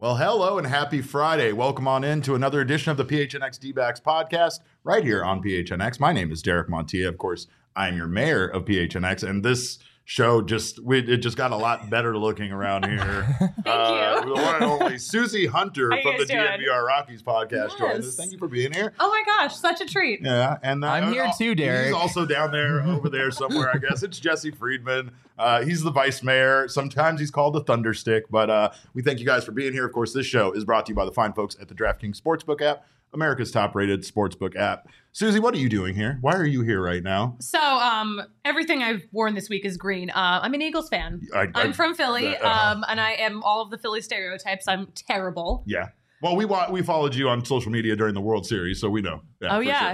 Well, hello and happy Friday. Welcome on in to another edition of the PHNX D-Backs podcast right here on PHNX. My name is Derek Montilla. Of course, I'm your mayor of PHNX, and this show just got a lot better looking around here. Thank you. The one and only Susie Hunter How from you the guys doing? DNVR Rockies podcast Yes. joins us. Thank you for being here. Oh my gosh, such a treat. Yeah, and I'm here too, Derek. He's also down there, over there somewhere, I guess. It's Jesse Friedman. He's the vice mayor. Sometimes he's called the Thunderstick, but we thank you guys for being here. Of course, this show is brought to you by the fine folks at the DraftKings Sportsbook app, America's top-rated sportsbook app. Susie, what are you doing here? Why are you here right now? So, everything I've worn this week is green. I'm an Eagles fan. I'm from Philly, and I am all of the Philly stereotypes. I'm terrible. Yeah. Well, we followed you on social media during the World Series, so we know. Oh, yeah.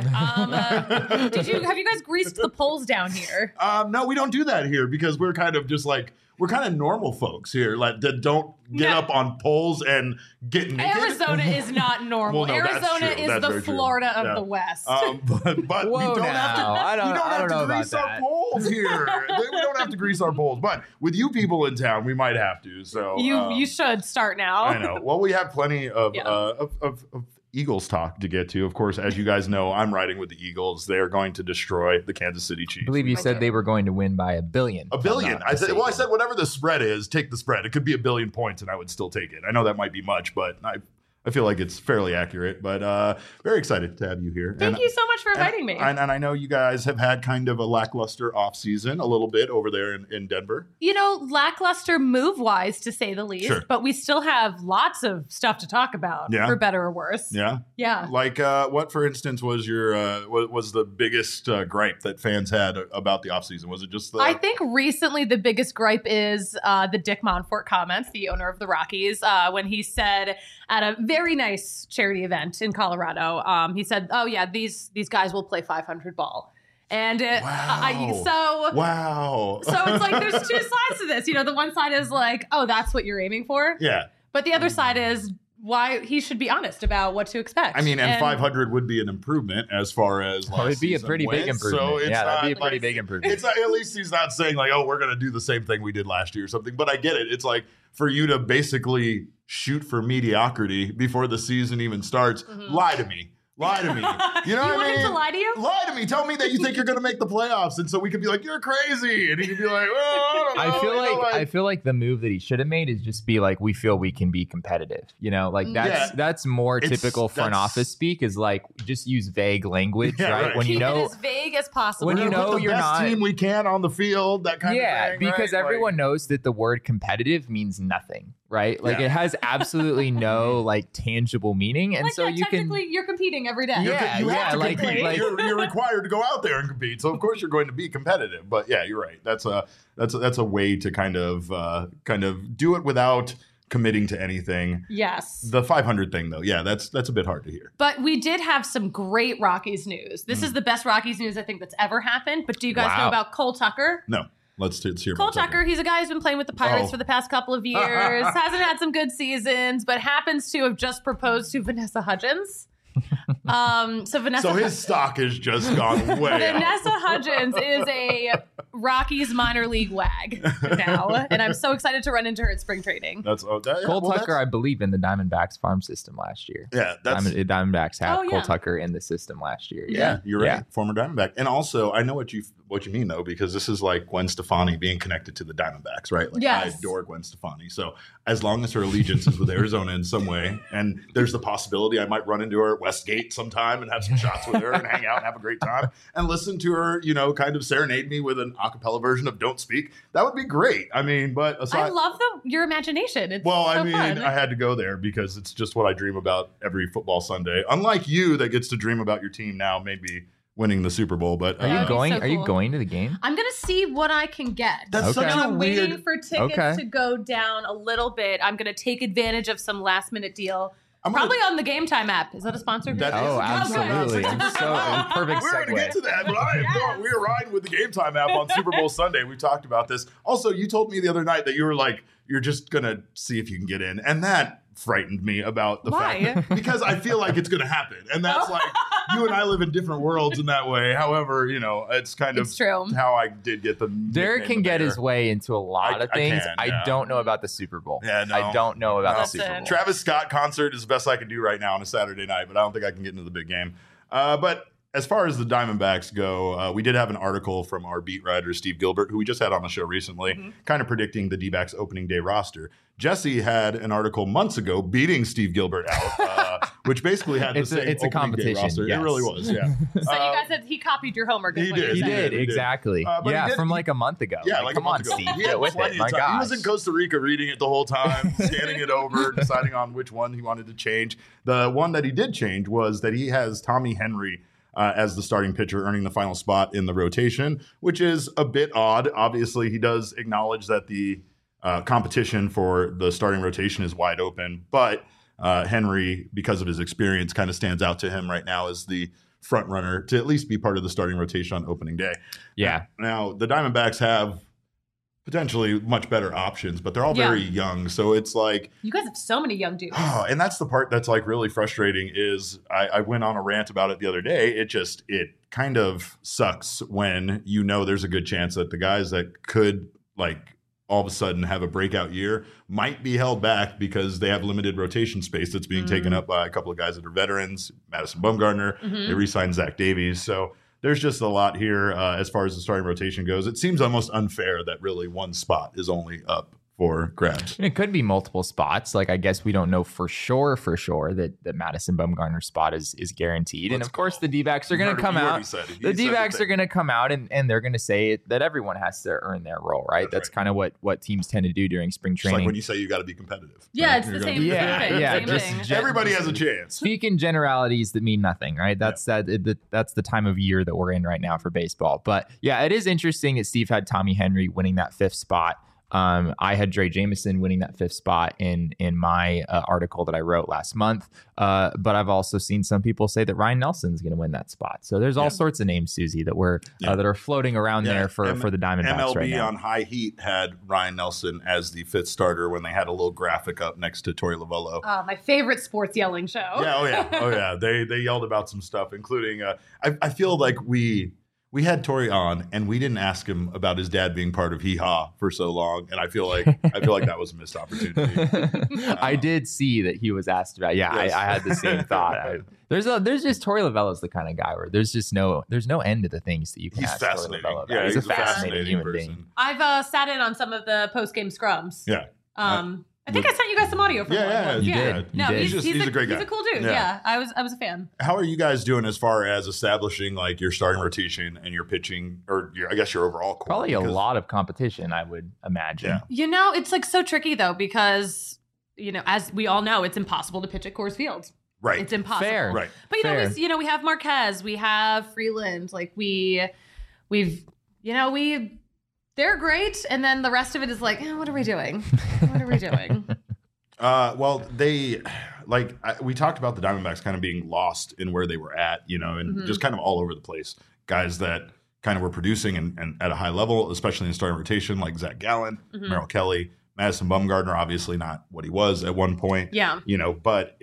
Sure. Have you guys greased the poles down here? No, we don't do that here because we're kind of just like, we're kind of normal folks here, like that don't get up on poles and get naked. Arizona is not normal. Well, no, that's Arizona true. is That's the very true. Florida of Yeah. the West. But we Whoa, don't now. have to. I don't know grease about our that. poles here. We don't have to grease our poles, but with you people in town, we might have to. So you should start now. I know. Well, we have plenty of Yeah. of Eagles talk to get to. Of course, as you guys know, I'm riding with the Eagles. They are going to destroy the Kansas City Chiefs. I believe you said they were going to win by $1 billion. A billion. I said whatever the spread is, take the spread. It could be 1 billion points, and I would still take it. I know that might be much, but I feel like it's fairly accurate. But very excited to have you here. Thank you so much for inviting me. And I know you guys have had kind of a lackluster offseason a little bit over there in Denver. Lackluster move-wise, to say the least. Sure. But we still have lots of stuff to talk about, Yeah. for better or worse. Yeah. Yeah. Like what, for instance, was your was the biggest gripe that fans had about the offseason? Was it just the? I think recently the biggest gripe is the Dick Monfort comments, the owner of the Rockies, when he said at a very nice charity event in Colorado, he said, "Oh yeah, these guys will play 500 ball." And wow. So it's like there's two sides to this. The one side is like, oh, that's what you're aiming for. Yeah. But the other side is why he should be honest about what to expect. I mean, and 500 would be an improvement as far as last It'd be a season pretty big wins. improvement. So it's That'd be a not pretty like- big improvement. It's not, at least he's not saying like, oh, we're going to do the same thing we did last year or something. But I get it. It's like for you to basically shoot for mediocrity before the season even starts. Lie to me. Lie to me. You know You what want I him mean? to lie to you? Lie to me. Tell me that you think you're going to make the playoffs, and so we can be like, "You're crazy," and he can be like, "Well, I don't know." I feel like the move that he should have made is just be like, we feel we can be competitive. That's more typical front office speak, is like just use vague language, Yeah, right? right. When Keep you know it as vague as possible. when We're you gonna know put the you're best not team we can on the field, that kind of thing. because right? everyone knows that the word competitive means nothing, right? Like Yeah. it has absolutely no like tangible meaning, and Like, so yeah, you can technically, you're competing every day. You have to like- compete. like- you're required to go out there and compete. So of course you're going to be competitive. But yeah, you're right. That's a way to kind of do it without committing to anything. Yes. The 500 thing though, yeah, that's a bit hard to hear. But we did have some great Rockies news. This is the best Rockies news I think that's ever happened. But do you guys know Wow. about Cole Tucker? No, let's hear Cole about Tucker, he's a guy who's been playing with the Pirates Oh. for the past couple of years, hasn't had some good seasons, but happens to have just proposed to Vanessa Hudgens. So his stock has just gone way up. Vanessa Hudgens is a Rockies minor league wag now, and I'm so excited to run into her at spring training. Cole Tucker, I believe, in the Diamondbacks farm system last year. Yeah, that's Diamondbacks had Oh, yeah. Cole Tucker in the system last year. Yeah, you're right. Yeah. Former Diamondback. And also, I know what you mean, though, because this is like Gwen Stefani being connected to the Diamondbacks, right? Like, Yes. I adore Gwen Stefani. So as long as her allegiance is with Arizona in some way, and there's the possibility I might run into her at Westgate sometime and have some shots with her and hang out and have a great time and listen to her, kind of serenade me with an a cappella version of Don't Speak, that would be great. I mean, but aside... I love your imagination. It's Well, so I mean, fun. I had to go there because it's just what I dream about every football Sunday. Unlike you, that gets to dream about your team now, maybe winning the Super Bowl. But Are you That'd be going? so Are you cool. going to the game? I'm gonna see what I can get. That's Okay. such a I'm waiting weird. for tickets Okay. to go down a little bit. I'm gonna take advantage of some last minute deal. I'm gonna- Probably on the Game Time app. Is that a sponsor? That is Oh, a good absolutely. one. I'm so perfect We're going to get segue. to that, but I am going. We were riding with the Game Time app on Super Bowl Sunday. We talked about this. Also, you told me the other night that you were like, you're just going to see if you can get in. And that frightened me about the Why? fact because I feel like it's going to happen. And that's like, you and I live in different worlds in that way. However, it's kind of true. how I did get the Derek can get his way into a lot of things. I don't know about the Super Bowl. Yeah, no. I don't know about the Super Bowl. Travis Scott concert is the best I can do right now on a Saturday night, but I don't think I can get into the big game. But as far as the Diamondbacks go, we did have an article from our beat writer, Steve Gilbert, who we just had on the show recently, kind of predicting the D-backs opening day roster. Jesse had an article months ago beating Steve Gilbert out, which basically had the same it's a competition. roster. Yes. It really was, yeah. So you guys said he copied your homework. He did. He did, exactly. From like a month ago. Yeah, like come a month on, ago. Steve, get with it. My He gosh. was in Costa Rica reading it the whole time, scanning it over, deciding on which one he wanted to change. The one that he did change was that he has Tommy Henry as the starting pitcher, earning the final spot in the rotation, which is a bit odd. Obviously, he does acknowledge that the competition for the starting rotation is wide open, but Henry, because of his experience, kind of stands out to him right now as the front runner to at least be part of the starting rotation on opening day. Yeah. Now, the Diamondbacks have potentially much better options, but they're all very young. So it's like, you guys have so many young dudes. Oh, and that's the part that's like really frustrating is I went on a rant about it the other day. It kind of sucks when there's a good chance that the guys that could like all of a sudden have a breakout year might be held back because they have limited rotation space that's being taken up by a couple of guys that are veterans, Madison Bumgarner, they re-signed Zach Davies. So there's just a lot here as far as the starting rotation goes. It seems almost unfair that really one spot is only up for grabs. It could be multiple spots. Like, I guess we don't know for sure that Madison Bumgarner's spot is guaranteed. And of course, the D-backs are going to come out. The D-backs are going to come out and they're going to say that everyone has to earn their role, right? That's kind of what teams tend to do during spring training. It's like when you say you got to be competitive. Yeah, right? it's the You're same gonna thing. Everybody has a chance. Speak in generalities that mean nothing, right? That's the time of year that we're in right now for baseball. But yeah, it is interesting that Steve had Tommy Henry winning that 5th spot. I had Dre Jameson winning that 5th spot in my article that I wrote last month. But I've also seen some people say that Ryan Nelson's going to win that spot. So there's all sorts of names, Susie, that that are floating around there for the Diamondbacks MLB right now. on High Heat had Ryan Nelson as the 5th starter when they had a little graphic up next to Torey Lovullo. My favorite sports yelling show. Oh yeah. They yelled about some stuff, including I feel like we had Torey on and we didn't ask him about his dad being part of Hee Haw for so long, and I feel like that was a missed opportunity. I did see that he was asked about. Yeah, yes. I had the same thought. There's just Torey Lovullo's the kind of guy where there's no end to the things that you can ask Torey Lovullo about. Yeah, he's a fascinating human being. I've sat in on some of the post game scrums. Yeah. I think I sent you guys some audio from one. You did. No, you did. He's a great guy. He's a cool dude. Yeah. I was a fan. How are you guys doing as far as establishing like your starting rotation and your pitching, or I guess your overall core? Probably a lot of competition, I would imagine. Yeah. It's like so tricky though because as we all know, it's impossible to pitch at Coors Field. Right. It's impossible. Fair. Right. But we have Marquez, we have Freeland, like they're great, and then the rest of it is like, what are we doing? What are we doing? Well, we talked about the Diamondbacks kind of being lost in where they were at, and just kind of all over the place. Guys that kind of were producing and at a high level, especially in the starting rotation, like Zach Gallen, Merrill Kelly, Madison Bumgarner, obviously not what he was at one point. Yeah. But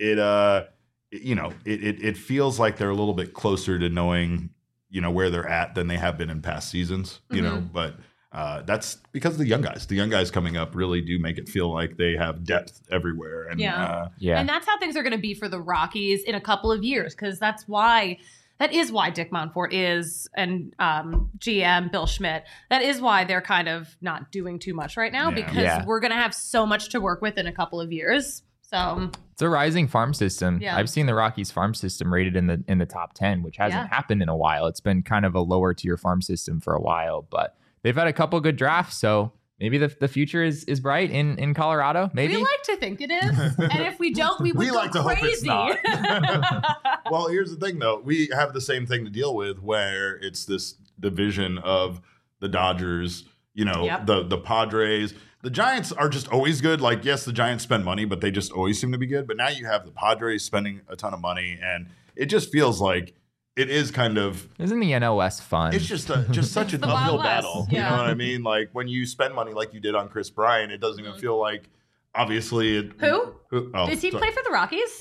it feels like they're a little bit closer to knowing, where they're at than they have been in past seasons, but that's because of the young guys. The young guys coming up really do make it feel like they have depth everywhere. And, And that's how things are going to be for the Rockies in a couple of years, because that is why Dick Montfort is, and GM Bill Schmidt, that is why they're kind of not doing too much right now, because we're going to have so much to work with in a couple of years. So it's a rising farm system. Yeah. I've seen the Rockies farm system rated in the top 10, which hasn't happened in a while. It's been kind of a lower tier farm system for a while, but they've had a couple good drafts, so maybe the future is bright in Colorado. Maybe we like to think it is, and if we don't, we would go like to crazy. hope it's not. Well, here's the thing, though. We have the same thing to deal with, where it's this division of the Dodgers, the Padres. The Giants are just always good. Like, yes, the Giants spend money, but they just always seem to be good. But now you have the Padres spending a ton of money, and it just feels like it is kind of. Isn't the NOS fun? It's just such an uphill battle. Yeah. You know what I mean? Like when you spend money like you did on Chris Bryant, it doesn't even feel like obviously, Who? Oh, Does he sorry. play for the Rockies?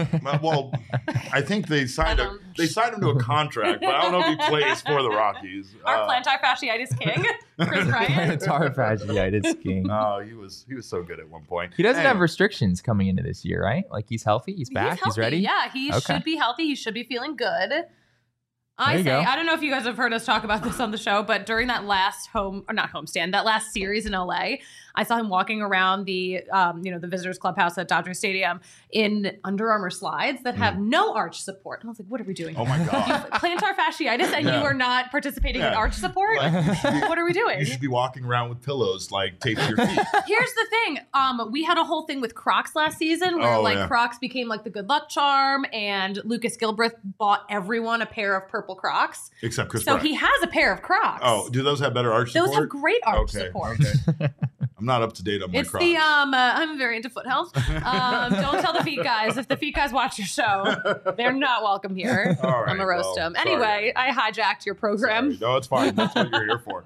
I think they signed him to a contract, but I don't know if he plays for the Rockies. Our plantar fasciitis king, Chris Bryant. Plantar fasciitis king. Oh, he was so good at one point. He doesn't Anyway. have restrictions coming into this year, right? Like he's healthy, he's back, he's healthy. ready. Yeah, he Okay. should be healthy. He should be feeling good. There you go. I don't know if you guys have heard us talk about this on the show, but during that last that last series in LA, I saw him walking around the the visitors clubhouse at Dodger Stadium in Under Armour slides that have no arch support. And I was like, what are we doing? Oh my God. Plantar fasciitis, and Yeah. you are not participating in Yeah. arch support? What are we doing? You should be walking around with pillows like taped to your feet. Here's the thing. We had a whole thing with Crocs last season where Oh, yeah. Crocs became like the good luck charm, and Lucas Gilbreth bought everyone a pair of purple Crocs. Except Chris So Bryant. he has a pair of Crocs. Oh, do those have better arch those support? have great arch Okay, support. okay. I'm not up to date on my It's Crocs. the I'm very into foot health. Don't tell the feet guys. If the feet guys watch your show, they're not welcome here. All right, I'm gonna roast well, them. sorry. Anyway, I hijacked your program. Sorry. No, it's fine. That's what you're here for.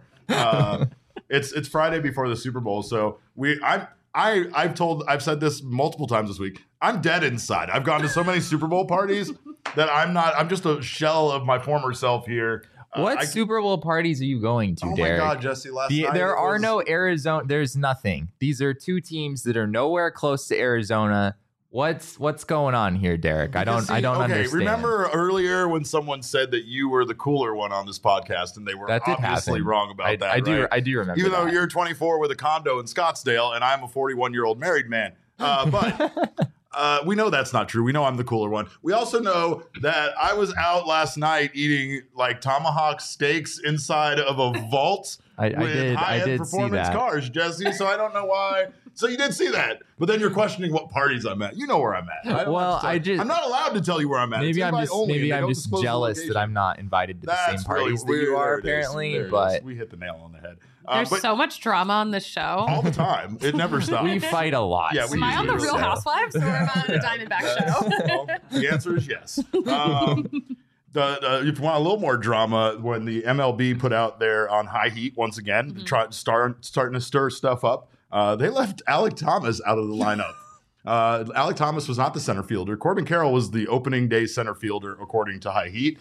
It's Friday before the Super Bowl, so I've said this multiple times this week. I'm dead inside. I've gone to so many Super Bowl parties that I'm just a shell of my former self here. What Super Bowl parties are you going to, Oh Derek? my God, Jesse! Last night There it are was- no Arizona. There's nothing. These are two teams that are nowhere close to Arizona. What's going on here, Derek? I don't understand. Remember earlier when someone said that you were the cooler one on this podcast, and they were That did obviously happen. wrong about that. I do. right? I do remember. Even though that. you're 24 with a condo in Scottsdale, and I'm a 41-year-old married man. But we know that's not true. We know I'm the cooler one. We also know that I was out last night eating like tomahawk steaks inside of a vault I with did high-end see performance that. cars, Jesse. So I don't know why. So you did see that, but then you're questioning what parties I'm at. You know where I'm at. I don't Well, have to tell you. I'm not allowed to tell you where I'm at. It's Maybe I'm invite just only, and they don't just disclose the jealous location. that I'm not invited to the That's same parties really that you weird. are There it is. apparently. There it is. But we hit the nail on the head. There's But so much drama on this show. all the time, it never stops. we fight a lot. Yeah, we Am I on the usually Real so. Housewives or am I on the Diamondback show? Well, the answer is yes. If you want a little more drama, when the MLB put out there on high heat once again, starting to stir stuff up, they left Alec Thomas out of the lineup. Alec Thomas was not the center fielder. Corbin Carroll was the opening day center fielder, according to High Heat.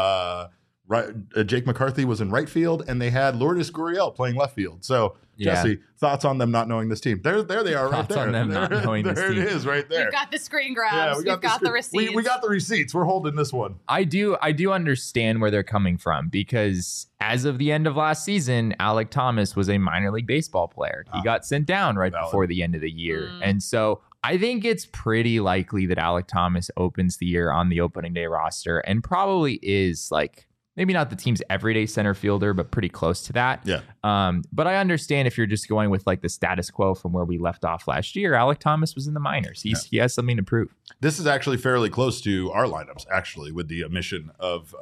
Jake McCarthy was in right field, and they had Lourdes Gurriel playing left field. So, Yeah. Jesse, thoughts on them not knowing this team? There they are, right Thoughts there. on them not knowing this There team. it is, right there. We've got the screen grabs. We've got the screen- receipts. We got the receipts. We're holding this one. I do understand where they're coming from because as of the end of last season, Alec Thomas was a minor league baseball player. He got sent down right Valid. before the end of the year. And so I think it's pretty likely that Alec Thomas opens the year on the opening day roster and probably is like maybe not the team's everyday center fielder, but pretty close to that. Yeah. But I understand if you're just going with like the status quo from where we left off last year, Alec Thomas was in the minors. He has something to prove. This is actually fairly close to our lineups, actually, with the omission of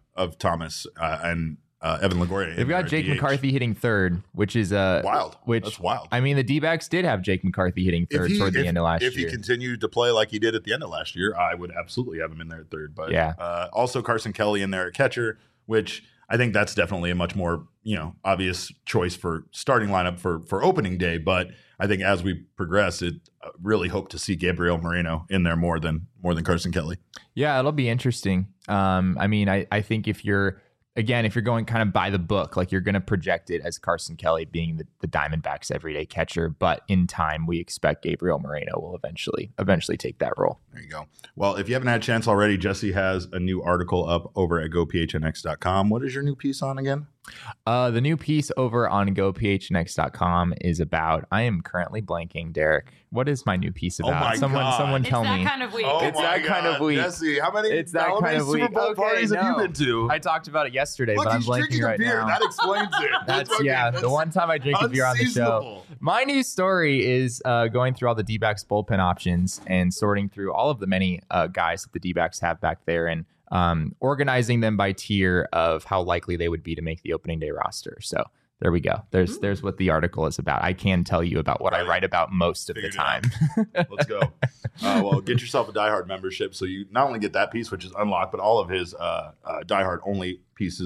Thomas and Evan Longoria. They've got Jake McCarthy hitting third, which is wild. Which That's wild. I mean, the D-backs did have Jake McCarthy hitting third toward the end of last year. If he continued to play like he did at the end of last year, I would absolutely have him in there at third. But Yeah. Also Carson Kelly in there at catcher, which I think that's definitely a much more obvious choice for starting lineup for opening day. But I think as we progress, it really hope to see Gabriel Moreno in there more than Carson Kelly. Yeah, it'll be interesting. I mean, I think if you're going kind of by the book, like you're going to project it as Carson Kelly being the Diamondbacks' everyday catcher, but in time we expect Gabriel Moreno will eventually take that role. There you go. Well, if you haven't had a chance already, Jesse has a new article up over at gophnx.com. What is your new piece on again? The new piece over on gophnx.com is about, I am currently blanking, Derek. What is my new piece about? my God. Someone It's tell that me. kind of week. It's that kind of week. Jesse, how many Super Super Bowl parties have you been to? I talked about it yesterday, Look, but I'm he's blanking drinking right a beer. now. That explains it. That's the one time I drink a beer on the show. unseasonable. My new story is going through all the D-backs bullpen options and sorting through all of the many guys that the D-backs have back there and organizing them by tier of how likely they would be to make the opening day roster. So there we go. There's what the article is about. I can tell you about what I write about most of the Figured it time. Let's go. Well, get yourself a Die Hard membership so you not only get that piece, which is unlocked, but all of his Die Hard only pieces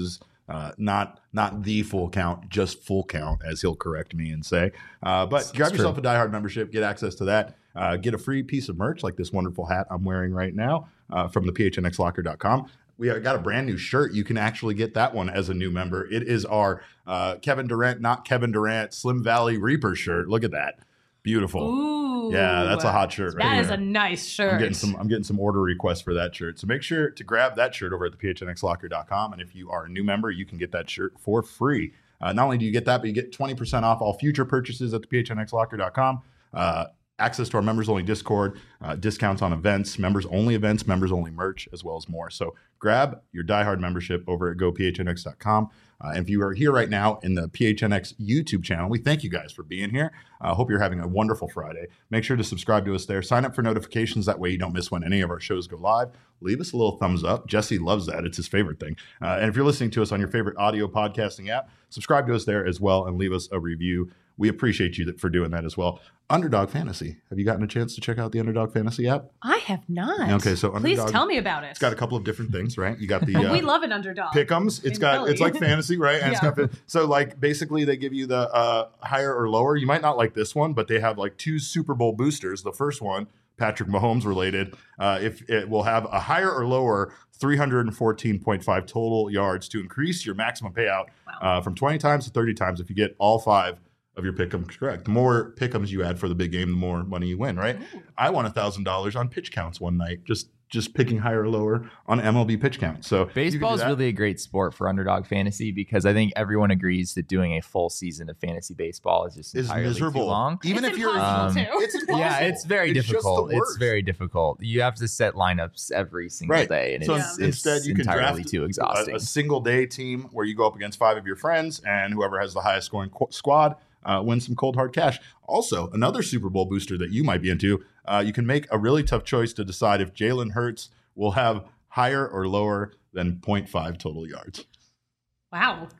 Not the full count, just full count, as he'll correct me and say. But grab yourself a Die Hard membership, get access to that, get a free piece of merch like this wonderful hat I'm wearing right now from the phnxlocker.com. We got a brand new shirt. You can actually get that one as a new member. It is our Kevin Durant, not Kevin Durant, Slim Valley Reaper shirt. Look at that. Beautiful. Ooh. Yeah, that's a hot shirt right there. That is a nice shirt. I'm getting some order requests for that shirt. So make sure to grab that shirt over at the phnxlocker.com. And if you are a new member, you can get that shirt for free. Not only do you get that, but you get 20% off all future purchases at the phnxlocker.com. Access to our members only Discord, discounts on events, members only merch, as well as more. So grab your Die Hard membership over at gophnx.com. And if you are here right now in the PHNX YouTube channel, we thank you guys for being here. I hope you're having a wonderful Friday. Make sure to subscribe to us there. Sign up for notifications. That way you don't miss when any of our shows go live. Leave us a little thumbs up. Jesse loves that. It's his favorite thing. And if you're listening to us on your favorite audio podcasting app, subscribe to us there as well and leave us a review. We appreciate you for doing that as well. Underdog Fantasy. Have you gotten a chance to check out the Underdog Fantasy app? I have not. Okay, so Underdog, please tell me about it. It's got a couple of different things, right? You got the we love an underdog. Pick'ems. It's like fantasy, right? And Yeah. so like basically they give you the higher or lower. You might not like this one, but they have like 2 Super Bowl boosters. The first one, Patrick Mahomes related, if it will have a higher or lower 314.5 total yards to increase your maximum payout from 20 times to 30 times if you get all 5 of your pick'ems correct. The more pick'ems you add for the big game, the more money you win, right? Ooh. I won $1,000 on pitch counts one night, just picking higher or lower on MLB pitch count. So baseball is really a great sport for Underdog Fantasy because I think everyone agrees that doing a full season of fantasy baseball is just entirely miserable. Too long. Even it's if you're, it's impossible. Yeah, it's very difficult. It's very difficult. You have to set lineups every single day, and instead you can entirely draft too exhausting. A single day team where you go up against 5 of your friends, and whoever has the highest scoring squad win some cold hard cash. Also, another Super Bowl booster that you might be into, you can make a really tough choice to decide if Jalen Hurts will have higher or lower than 0.5 total yards. Wow.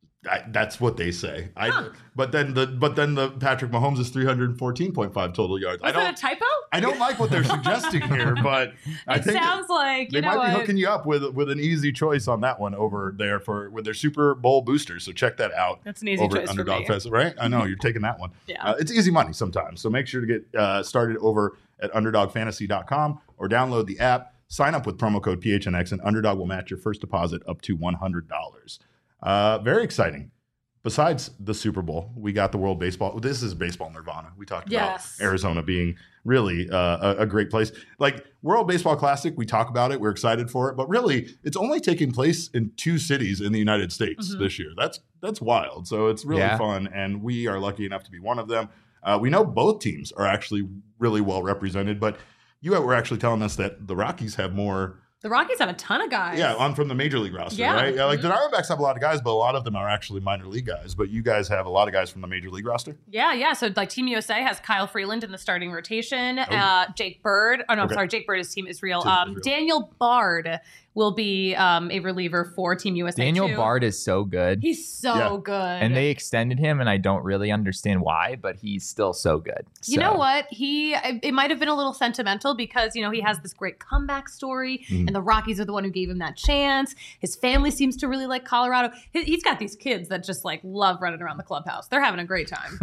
That's what they say. But then the Patrick Mahomes is 314.5 total yards. Is that a typo? I don't like what they're suggesting here, but I think sounds like they might be hooking you up with an easy choice on that one over there with their Super Bowl boosters. So check that out. That's an easy choice Underdog for me. Fest, right? I know you're taking that one. Yeah, it's easy money sometimes. So make sure to get started over at UnderdogFantasy.com or download the app. Sign up with promo code PHNX, and Underdog will match your first deposit up to $100. Very exciting. Besides the Super Bowl, we got the World Baseball. This is baseball nirvana. We talked about Arizona being really a great place. Like World Baseball Classic, we talk about it. We're excited for it. But really, it's only taking place in 2 cities in the United States this year. That's wild. So it's really fun, and we are lucky enough to be one of them. We know both teams are actually really well represented, but you were actually telling us that the Rockies have more. The Rockies have a ton of guys. Yeah, on from the major league roster, right? Yeah, like the Diamondbacks have a lot of guys, but a lot of them are actually minor league guys. But you guys have a lot of guys from the major league roster. Yeah. So like Team USA has Kyle Freeland in the starting rotation. Jake Bird. Oh no, I'm sorry. Jake Bird is Team Israel. Daniel Bard will be a reliever for Team USA. Daniel Bard is so good. He's so good. And they extended him, and I don't really understand why, but he's still so good. You know what? It might have been a little sentimental because, he has this great comeback story, and the Rockies are the one who gave him that chance. His family seems to really like Colorado. He's got these kids that just like love running around the clubhouse. They're having a great time.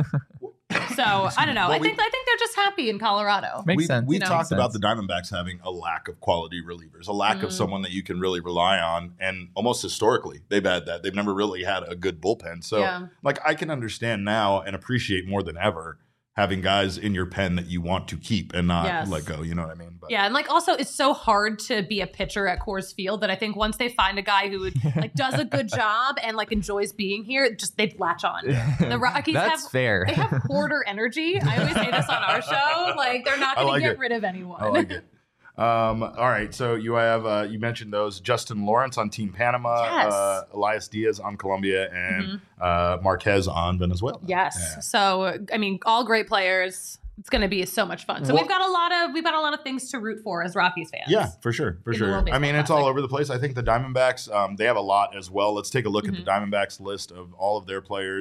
So I don't know. I think they're just happy in Colorado. Makes sense. We talked about the Diamondbacks having a lack of quality relievers, a lack of someone that you can really rely on. And almost historically, they've had that. They've never really had a good bullpen. So I can understand now and appreciate more than ever having guys in your pen that you want to keep and not let go. You know what I mean? But. Yeah, and also it's so hard to be a pitcher at Coors Field that I think once they find a guy who does a good job and enjoys being here, they'd latch on. The Rockies fair. They have hoarder energy. I always say this on our show. They're not going to get rid of anyone. I like it. All right, so you have you mentioned those Justin Lawrence on Team Panama, Elias Diaz on Colombia, and Marquez on Venezuela. Yes. Yeah. So all great players. It's going to be so much fun. So we've got a lot of things to root for as Rockies fans. Yeah, for sure. It's all over the place. I think the Diamondbacks they have a lot as well. Let's take a look at the Diamondbacks list of all of their players.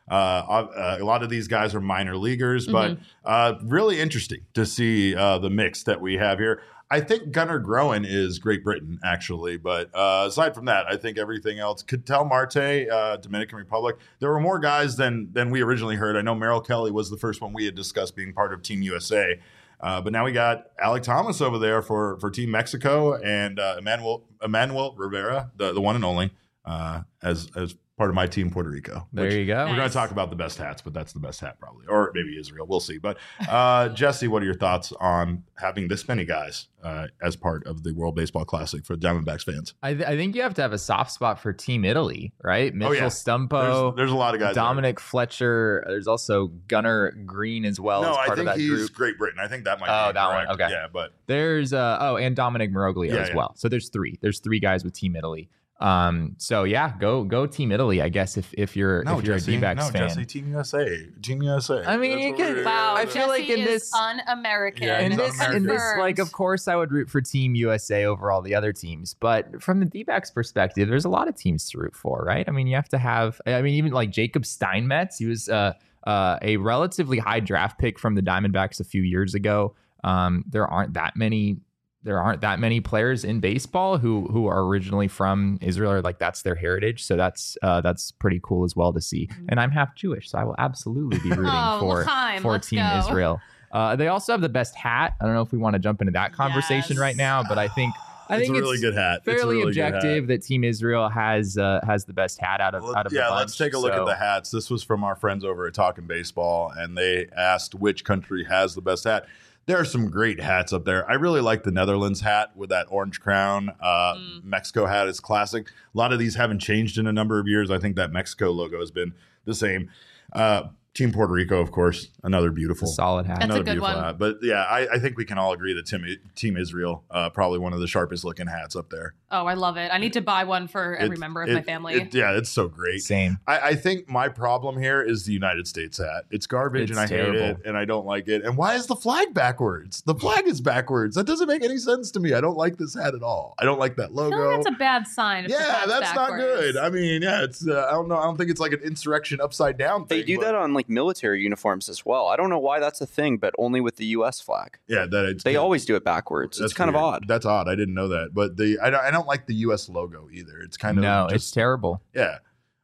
A lot of these guys are minor leaguers, but really interesting to see the mix that we have here. I think Gunnar Groen is Great Britain, actually. But aside from that, I think everything else. Ketel Marte, Dominican Republic. There were more guys than we originally heard. I know Merrill Kelly was the first one we had discussed being part of Team USA. But now we got Alec Thomas over there for Team Mexico and Emmanuel Rivera, the one and only, as part of my team Puerto Rico. There you go. We're going to talk about the best hats, but that's the best hat probably. Or maybe Israel. We'll see. But Jesse, what are your thoughts on having this many guys as part of the World Baseball Classic for Diamondbacks fans? I think you have to have a soft spot for Team Italy, right? Mitchell Stumpo. There's a lot of guys. Dominic Fletcher. There's also Gunnar Green as well. No, as part I think of that he's group. Great Britain. I think that might Oh, be that correct. one. Okay. Yeah, but there's and Dominic Miroglia as well. So there's three. There's three guys with Team Italy. So yeah, go Team Italy, I guess if you're a D-backs fan. Jesse, Team USA. I mean, you can. Wow, I feel like in this un-American. Yeah, in this, Confirmed. like, of course, I would root for Team USA over all the other teams. But from the D-backs perspective, there's a lot of teams to root for, right? I mean, you have to have. I mean, even like Jacob Steinmetz, he was a relatively high draft pick from the Diamondbacks a few years ago. There aren't that many players in baseball who are originally from Israel, or like that's their heritage. So that's pretty cool as well to see. And I'm half Jewish, so I will absolutely be rooting for Team Israel. They also have the best hat. I don't know if we want to jump into that conversation right now, but I think it's a really good hat. Fairly objective that Team Israel has the best hat out of the bunch. Let's take a look at the hats. This was from our friends over at Talking Baseball, and they asked which country has the best hat. There are some great hats up there. I really like the Netherlands hat with that orange crown. Mexico hat is classic. A lot of these haven't changed in a number of years. I think that Mexico logo has been the same. Team Puerto Rico, of course, another beautiful, solid hat. That's another a good beautiful one. hat. But yeah, I think we can all agree that Team Israel, probably one of the sharpest looking hats up there. Oh, I love it. I need to buy one for every member of my family. It's so great. Same. I think my problem here is the United States hat. It's garbage and I hate it and I don't like it. And why is the flag backwards? The flag is backwards. That doesn't make any sense to me. I don't like this hat at all. I don't like that I logo. feel like that's a bad sign. if the Yeah, flag's that's backwards. not good. I mean, yeah, it's I don't know. I don't think it's like an insurrection upside down thing. They do that on like military uniforms as well. I don't know why that's a thing, but only with the U.S. flag. Yeah, they always do it backwards. It's kind of odd. That's odd. I didn't know that. But I don't like the U.S. logo either. It's kind of it's terrible. Yeah.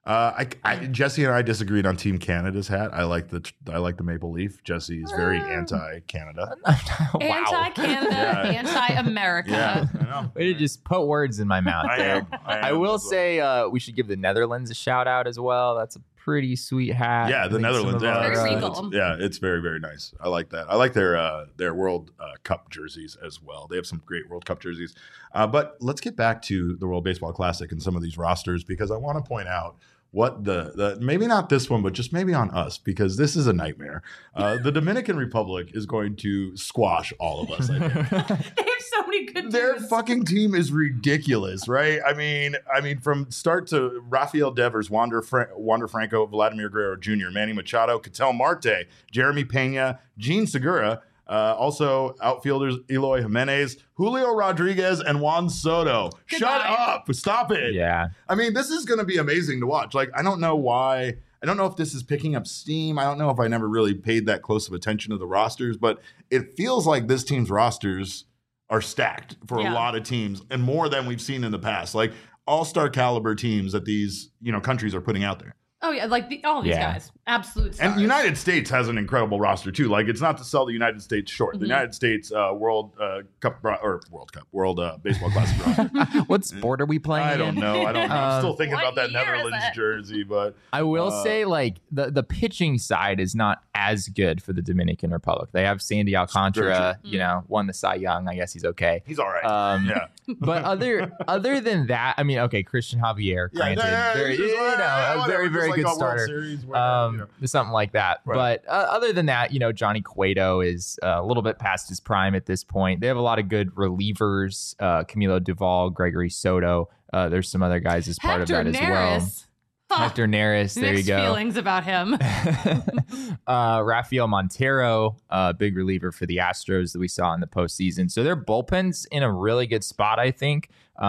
Jesse and I disagreed on Team Canada's hat. I like the maple leaf. Jesse is very anti-Canada. Anti-Canada, anti-America. Yeah, I know. Way to just put words in my mouth there. I will say we should give the Netherlands a shout out as well. That's a pretty sweet hat. Yeah, the Netherlands. Very regal. It's very, very nice. I like that. I like their World Cup jerseys as well. They have some great World Cup jerseys. But let's get back to the World Baseball Classic and some of these rosters, because I want to point out what the maybe not this one, but just maybe on us, because this is a nightmare. The Dominican Republic is going to squash all of us, I think. They have so many good Their dudes. fucking team is ridiculous, right? I mean, from start to Rafael Devers, Wander Franco, Vladimir Guerrero Jr., Manny Machado, Ketel Marte, Jeremy Pena, Gene Segura, also outfielders Eloy Jimenez, Julio Rodriguez, and Juan Soto. Goodbye. Shut up! Stop it! Yeah. I mean, this is going to be amazing to watch. Like, I don't know why. I don't know if this is picking up steam. I don't know if I never really paid that close of attention to the rosters, but it feels like this team's rosters are stacked for a lot of teams and more than we've seen in the past. Like all-star caliber teams that these, countries are putting out there. Oh yeah, like all these guys, absolute stars. And the United States has an incredible roster too. Like it's not to sell the United States short. The United States World Baseball Classic roster. What sport are we playing? I don't in? know. I'm still thinking What about that year is Netherlands it? jersey, but I will say, like, the pitching side is not as good for the Dominican Republic. They have Sandy Alcantara, won the Cy Young. I guess he's okay. he's all right. Yeah. But other than that, I mean, okay, Christian Javier, granted, a very, very good starter. Something like that. Right. But other than that, Johnny Cueto is a little bit past his prime at this point. They have a lot of good relievers, Camilo Duvall, Gregory Soto. There's some other guys as part of that as well. Hector Neris, there you Mixed go. feelings about him. Rafael Montero, big reliever for the Astros that we saw in the postseason. So their bullpen's in a really good spot, I think.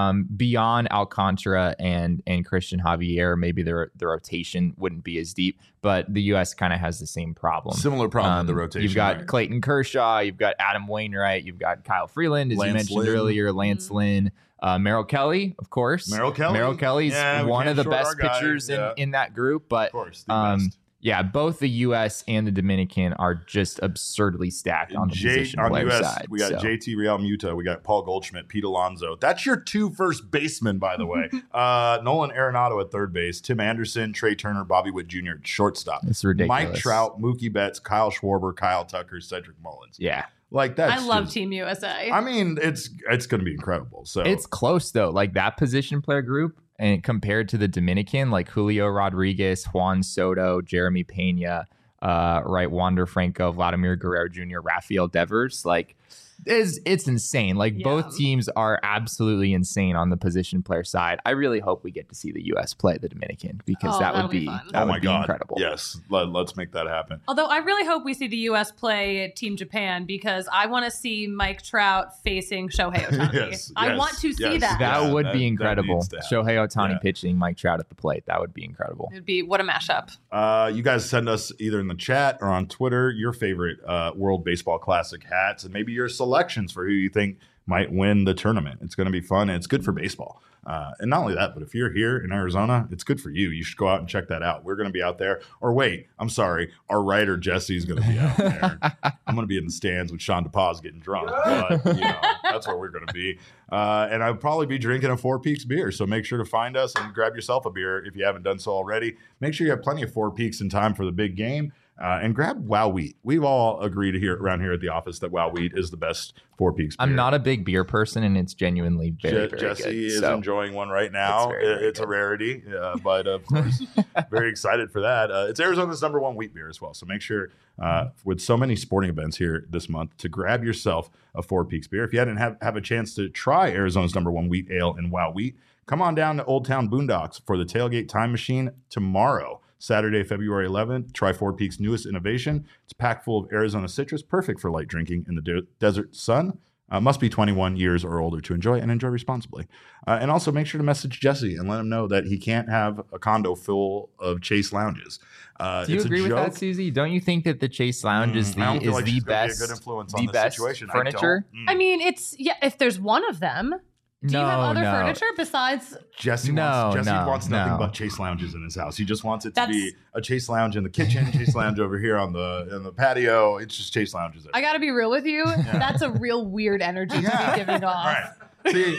Beyond Alcantara and Christian Javier, maybe the rotation wouldn't be as deep, but the U.S. kind of has the same problem. Similar problem with the rotation. You've got right? Clayton Kershaw, you've got Adam Wainwright, you've got Kyle Freeland, as you Lance mentioned Lynn. earlier, Lance Lynn. Merrill Kelly, of course. Merrill Kelly's one of the best guy. pitchers in that group. But Of course, the best. yeah, both the U.S. and the Dominican are just absurdly stacked on the position on player US, side. we got so. JT Real Muta, we got Paul Goldschmidt, Pete Alonso. That's your 2 first basemen, by the way. Nolan Arenado at third base, Tim Anderson, Trey Turner, Bobby Witt Jr. at shortstop. It's ridiculous. Mike Trout, Mookie Betts, Kyle Schwarber, Kyle Tucker, Cedric Mullins. Yeah. Like that's I love just- Team USA. I mean, it's going to be incredible. So It's close, though. Like that position player group, and compared to the Dominican, like Julio Rodriguez, Juan Soto, Jeremy Pena, right, Wander Franco, Vladimir Guerrero Jr., Rafael Devers, like it's insane. Like Yeah. both teams are absolutely insane on the position player side. I really hope we get to see the U.S. play the Dominican because Oh, that that'll would be be fun. that oh would my be God. incredible. Yes, let's make that happen. Although I really hope we see the U.S. play Team Japan because I want to see Mike Trout facing Shohei Ohtani. Yes, I yes, want to see yes. that. That Yeah, would that- be that incredible. needs to happen. Shohei Ohtani Yeah. pitching, Mike Trout at the plate. That would be incredible. It'd be what a mashup. You guys send us either in the chat or on Twitter your favorite World Baseball Classic hats and maybe your selections for who you think might win the tournament. It's going to be fun and it's good for baseball. And not only that, but if you're here in Arizona, it's good for you. You should go out and check that out. We're going to be out there. Or wait, I'm sorry. Our writer Jesse is going to be out there. I'm going to be in the stands with Sean DePaz getting drunk. But, that's where we're going to be. And I'll probably be drinking a Four Peaks beer. So make sure to find us and grab yourself a beer if you haven't done so already. Make sure you have plenty of Four Peaks in time for the big game. And grab Wow Wheat. We've all agreed here around here at the office that Wow Wheat is the best Four Peaks beer. I'm not a big beer person, and it's genuinely very, very Jesse good. is So. enjoying one right now. It's very, very It's a good. rarity, but of course, very excited for that. It's Arizona's #1 wheat beer as well. So make sure, with so many sporting events here this month, to grab yourself a Four Peaks beer. If you hadn't have a chance to try Arizona's #1 wheat ale and Wow Wheat, come on down to Old Town Boondocks for the Tailgate Time Machine tomorrow. Saturday, February 11th. Try Four Peaks' newest innovation. It's packed full of Arizona citrus, perfect for light drinking in the desert sun. Must be 21 years or older to enjoy and enjoy responsibly. And also make sure to message Jesse and let him know that he can't have a condo full of Chase lounges. Do you it's agree a with joke. that, Susie? Don't you think that the Chase Lounge is I don't feel like the she's gonna be best, a good influence on the the best situation. furniture? I don't. I mean, it's if there's one of them. Do you have other no. furniture besides? Jesse No, wants nothing no. but Chase lounges in his house. He just wants it to That's- be a Chase lounge in the kitchen, Chase lounge over here on the patio. It's just Chase lounges. I got to be real with you. That's a real weird energy to be giving off. Right. See,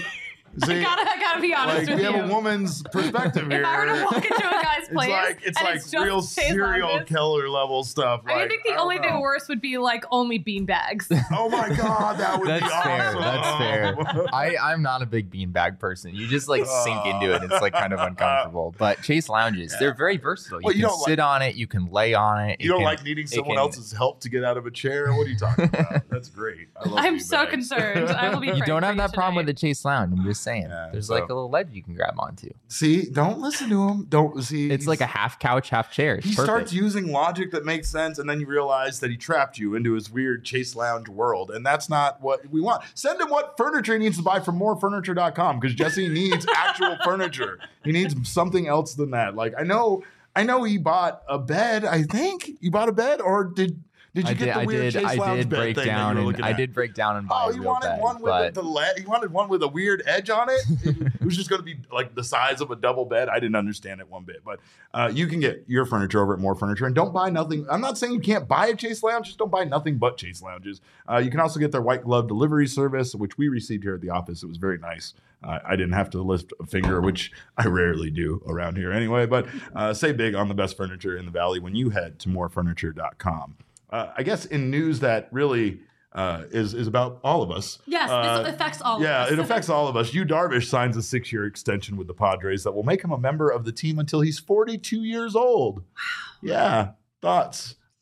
I gotta be honest like with we you. have a woman's perspective here. If I were to walk into a guy's place, it's and like it's just real Chase serial lounges, killer level stuff. I think the only thing worse would be like only bean bags. Oh my god, that would That's be fair. awesome. That's fair. I'm not a big beanbag person. You just like sink into it. It's like kind of uncomfortable. But Chase Lounges, they're very versatile. You Well, you can don't sit on it. You can lay on it. You don't can- like needing someone can- else's help to get out of a chair? What are you talking about? That's great. I love I'm beanbags. so concerned. I will be. You praying don't for have you that problem with tonight. the Chase Lounge. I'm just saying. Yeah, There's so- like a little ledge you can grab onto. See, don't listen to him. Don't see. It's like a half couch, half chair. It's He perfect. starts using logic that makes sense, and then you realize that he trapped you into his weird Chase Lounge world, and that's not what we want. Send him what furniture he needs to buy from morefurniture.com because Jesse needs actual furniture. He needs something else than that. Like I know he bought a bed. I think you bought a bed, or did you get the weird Chase Lounge bed thing that you were looking at? I did break down and buy Oh, a you real wanted bed, one with but you wanted one with a weird edge on it. It was just going to be like the size of a double bed. I didn't understand it one bit, but you can get your furniture over at More Furniture, and don't buy nothing. I'm not saying you can't buy a Chase Lounge, just don't buy nothing but Chase Lounges. You can also get their white glove delivery service, which we received here at the office. It was very nice. I didn't have to lift a finger, which I rarely do around here anyway. But say big on the best furniture in the valley when you head to morefurniture.com. I guess in news that really is about all of us. Yes, this affects all of Yeah, us. it affects all of us. Yu Darvish signs a 6-year extension with the Padres that will make him a member of the team until he's 42 years old. Yeah, thoughts?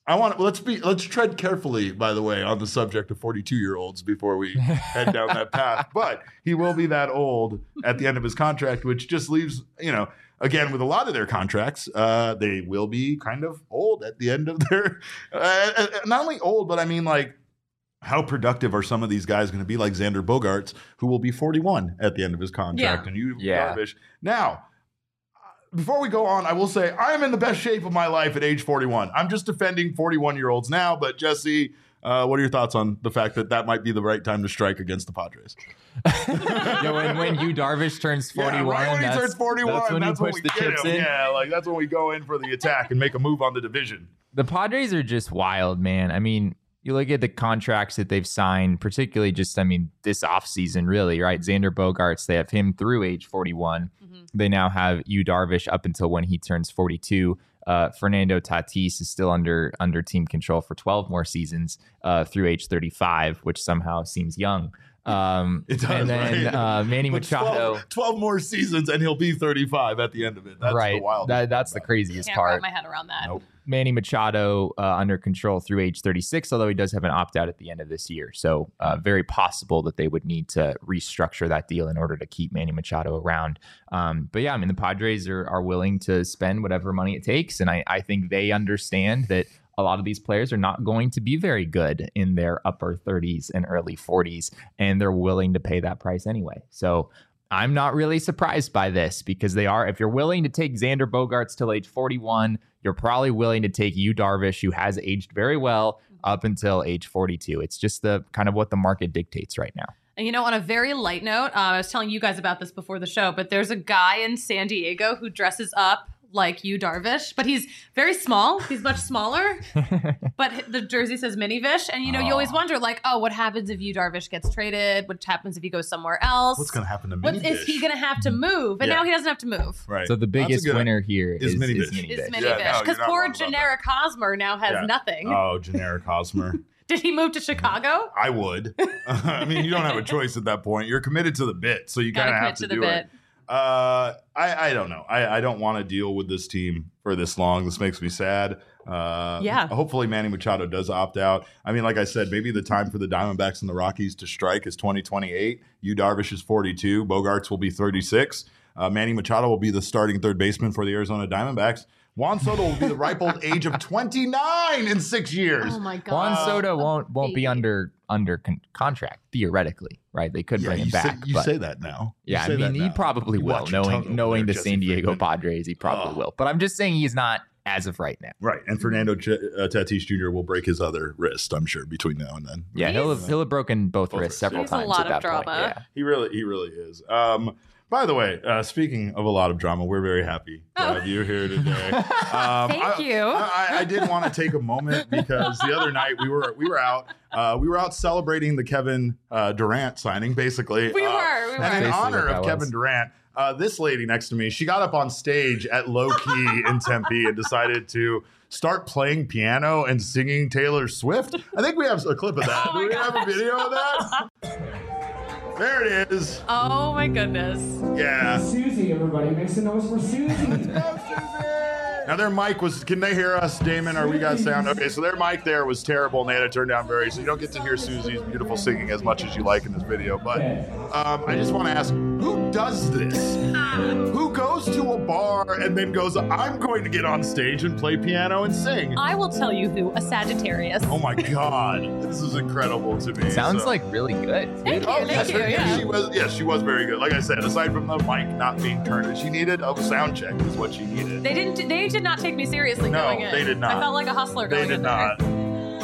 let's tread carefully, by the way, on the subject of 42-year-olds before we head down that path. But he will be that old at the end of his contract, which just leaves, again, with a lot of their contracts, they will be kind of old at the end of their, not only old, but I mean, like, how productive are some of these guys going to be, like Xander Bogaerts, who will be 41 at the end of his contract, and you, Darvish. Now, before we go on, I will say I am in the best shape of my life at age 41. I'm just defending 41-year-olds now, but Jesse, what are your thoughts on the fact that might be the right time to strike against the Padres? When Yu Darvish turns 41, right when he turns 41, that's when you push the chips in. Yeah, like that's when we go in for the attack and make a move on the division. The Padres are just wild, man. I mean, you look at the contracts that they've signed, particularly this offseason, really, right? Xander Bogaerts, they have him through age 41. Mm-hmm. They now have Yu Darvish up until when he turns 42. Fernando Tatis is still under team control for 12 more seasons through age 35, which somehow seems young. It does, and then right? Manny Machado, 12 more seasons, and he'll be 35 at the end of it. That's right. The wild. That's the craziest Can't part. wrap my head around that. Nope. Manny Machado under control through age 36, although he does have an opt-out at the end of this year. So very possible that they would need to restructure that deal in order to keep Manny Machado around. But yeah, I mean, the Padres are willing to spend whatever money it takes. And I think they understand that a lot of these players are not going to be very good in their upper 30s and early 40s, and they're willing to pay that price anyway. So I'm not really surprised by this because if you're willing to take Xander Bogaerts till age 41, you're probably willing to take Yu Darvish, who has aged very well, up until age 42. It's just the kind of what the market dictates right now. And on a very light note, I was telling you guys about this before the show, but there's a guy in San Diego who dresses up like Yu Darvish, but he's very small. He's much smaller, but the jersey says Mini-Vish. And, you always wonder, like, what happens if Yu Darvish gets traded? What happens if he goes somewhere else? What's going to happen to Mini-Vish? Is he going to have to move? And now he doesn't have to move. Right. So the biggest winner here is Mini-Vish. Because poor generic Hosmer now has nothing. Oh, generic Hosmer. Did he move to Chicago? I would. I mean, you don't have a choice at that point. You're committed to the bit, so you kind of have to do it. I don't know. I don't want to deal with this team for this long. This makes me sad. Hopefully Manny Machado does opt out. I mean, like I said, maybe the time for the Diamondbacks and the Rockies to strike is 2028. Yu Darvish is 42. Bogaerts will be 36. Manny Machado will be the starting third baseman for the Arizona Diamondbacks. Juan Soto will be the ripe old age of 29 in 6 years. Oh my God! Juan Soto won't be under contract theoretically, right? They could bring him back. You say that now. Yeah, I mean, he probably will. Knowing the San Diego Padres, he probably will. But I'm just saying he's not as of right now. Right, and Fernando Tatis Jr. will break his other wrist, I'm sure, between now and then. Yeah, he'll have broken both wrists several times. A lot at that of drama. Point. Yeah. He really is. By the way, speaking of a lot of drama, we're very happy to have you here today. Thank you. I did want to take a moment because the other night we were out celebrating the Kevin Durant signing, basically. We were. And in honor of Kevin Durant, this lady next to me, she got up on stage at Low Key in Tempe and decided to start playing piano and singing Taylor Swift. I think we have a clip of that. Do we have a video of that? There it is. Oh my goodness. Yeah. Susie, everybody. Make some noise for Susie. Now their mic was, can they hear us, Damon? Or we got sound? Okay, so their mic there was terrible and they had to turn down so you don't get to hear Susie's beautiful singing as much as you like in this video. But I just want to ask, who does this? Who goes to a bar and then goes, I'm going to get on stage and play piano and sing? I will tell you who, a Sagittarius. Oh my God, this is incredible to me. Sounds like really good. Thank you. Yeah. She was very good. Like I said, aside from the mic not being turned, she needed a sound check is what she needed. They did not take me seriously going in. No, they did not. I felt like a hustler going in there. They did not.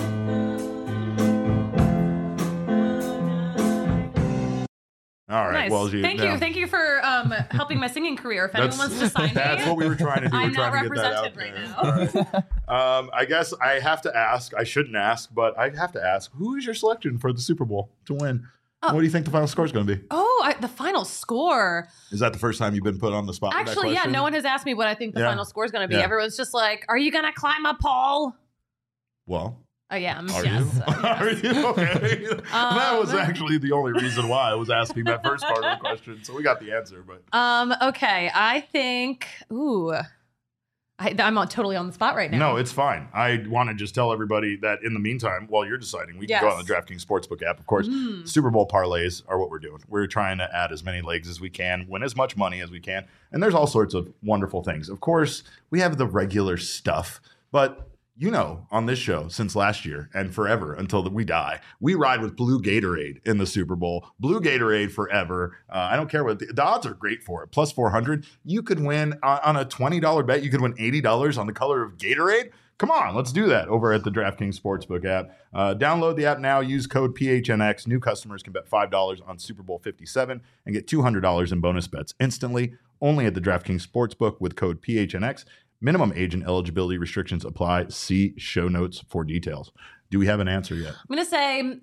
All right. Nice. Well, Thank you for helping my singing career. If anyone wants to sign me, that's what we were trying to do. I'm not trying to get that out represented right now. I guess I have to ask. I shouldn't ask, but I have to ask. Who is your selection for the Super Bowl to win? What do you think the final score is going to be? The final score. Is that the first time you've been put on the spot? Actually, yeah. No one has asked me what I think the final score is going to be. Yeah. Everyone's just like, "Are you going to climb a pole?" Well. I am. Are yes. you? Are you? Okay. That was actually the only reason why I was asking that first part of the question. So we got the answer, but Okay. I think. I'm totally on the spot right now. No, it's fine. I want to just tell everybody that in the meantime, while you're deciding, we can go on the DraftKings Sportsbook app. Of course, Super Bowl parlays are what we're doing. We're trying to add as many legs as we can, win as much money as we can. And there's all sorts of wonderful things. Of course, we have the regular stuff, but on this show since last year and forever until we die, we ride with Blue Gatorade in the Super Bowl. Blue Gatorade forever. I don't care what the odds are great for it. Plus 400. You could win on a $20 bet. You could win $80 on the color of Gatorade. Come on, let's do that over at the DraftKings Sportsbook app. Download the app now. Use code PHNX. New customers can bet $5 on Super Bowl 57 and get $200 in bonus bets instantly. Only at the DraftKings Sportsbook with code PHNX. Minimum age and eligibility restrictions apply. See show notes for details. Do we have an answer yet? I'm going to say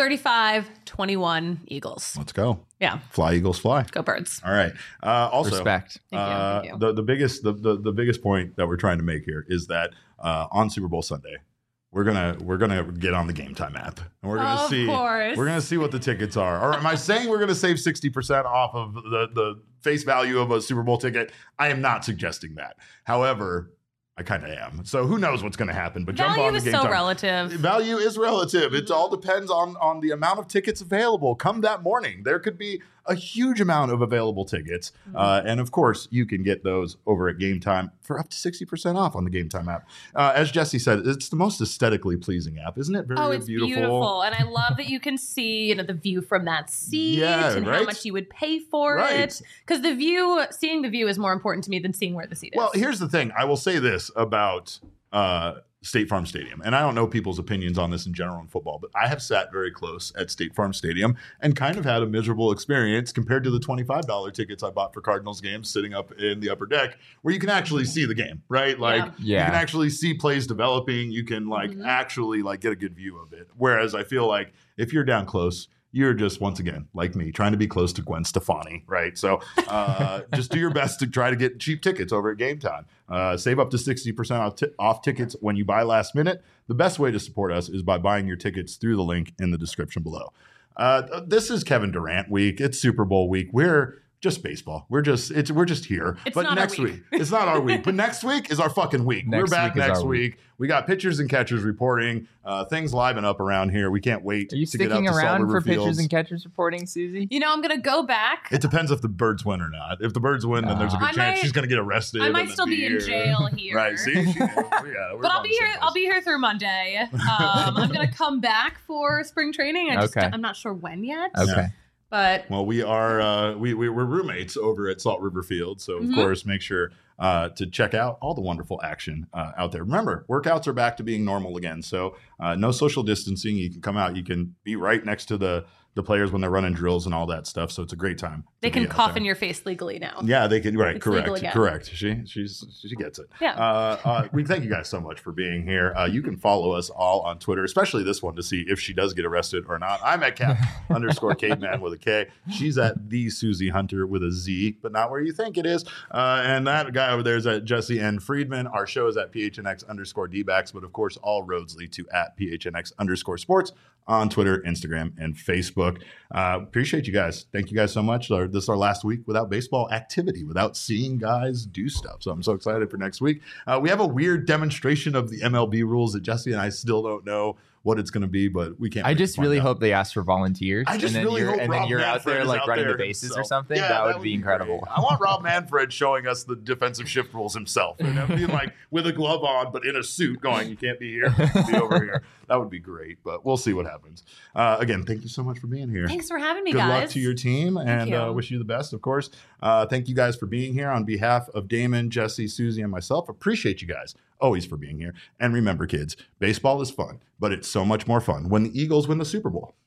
35-21 Eagles. Let's go. Yeah. Fly, Eagles, fly. Go Birds. All right. Also, respect. Thank you. The biggest point that we're trying to make here is that on Super Bowl Sunday, we're gonna get on the Game Time app and we're gonna see what the tickets are. Or am I saying we're gonna save 60% off of the face value of a Super Bowl ticket? I am not suggesting that. However, I kind of am. So who knows what's going to happen? But jump on the Game Time. Value is so relative. Value is relative. It all depends on the amount of tickets available. Come that morning, there could be a huge amount of available tickets. And of course, you can get those over at Game Time for up to 60% off on the Game Time app. As Jesse said, it's the most aesthetically pleasing app. Isn't it very it's beautiful. And I love that you can see the view from that seat and how much you would pay for it. Because seeing the view is more important to me than seeing where the seat is. Well, here's the thing. I will say this about State Farm Stadium. And I don't know people's opinions on this in general in football, but I have sat very close at State Farm Stadium and kind of had a miserable experience compared to the $25 tickets I bought for Cardinals games sitting up in the upper deck where you can actually see the game, right? You can actually see plays developing. You can actually get a good view of it. Whereas I feel like if you're down close, you're just, once again, like me, trying to be close to Gwen Stefani, right? So just do your best to try to get cheap tickets over at Game Time. Save up to 60% off tickets when you buy last minute. The best way to support us is by buying your tickets through the link in the description below. This is Kevin Durant week. It's Super Bowl week. We're just baseball. We're just here. But next week, it's not our week. But next week is our fucking week. We're back next week. We got pitchers and catchers reporting. Things liven up around here. We can't wait. Are you to get out sticking to around for Fields. pitchers and catchers reporting, Susie? I'm going to go back. It depends if the Birds win or not. If the Birds win, then there's a good chance she's going to get arrested. I might still be in jail here. Right? See, but I'll be here. I'll be here through Monday. I'm going to come back for spring training. I'm not sure when yet. Okay. But we are we're roommates over at Salt River Field, so of course make sure to check out all the wonderful action out there. Remember, workouts are back to being normal again, so no social distancing. You can come out. You can be right next to the players when they're running drills and all that stuff. So it's a great time. They can cough in your face legally now. Yeah, they can. Right, it's correct. She gets it. Yeah. We thank you guys so much for being here. You can follow us all on Twitter, especially this one, to see if she does get arrested or not. I'm at _caveman with a K. She's at the Susie Hunter with a Z, but not where you think it is. And that guy over there is at Jesse N. Friedman. Our show is at PHNX_DBacks, but of course, all roads lead to at PHNX_sports on Twitter, Instagram, and Facebook. Appreciate you guys. Thank you guys so much. This is our last week without baseball activity, without seeing guys do stuff. So I'm so excited for next week. We have a weird demonstration of the MLB rules that Jesse and I still don't know what it's going to be, but we can't. I just really hope they ask for volunteers. I just really hope and then you're out there running the bases or something. Yeah, that would be incredible. I want Rob Manfred showing us the defensive shift rules himself, and being with a glove on, but in a suit, going, "You can't be here, be over here." That would be great, but we'll see what happens. Again, thank you so much for being here. Thanks for having me, Good guys. Good luck to your team, and wish you the best, of course. Thank you guys for being here on behalf of Damon, Jesse, Susie, and myself. Appreciate you guys always for being here. And remember, kids, baseball is fun, but it's so much more fun when the Eagles win the Super Bowl.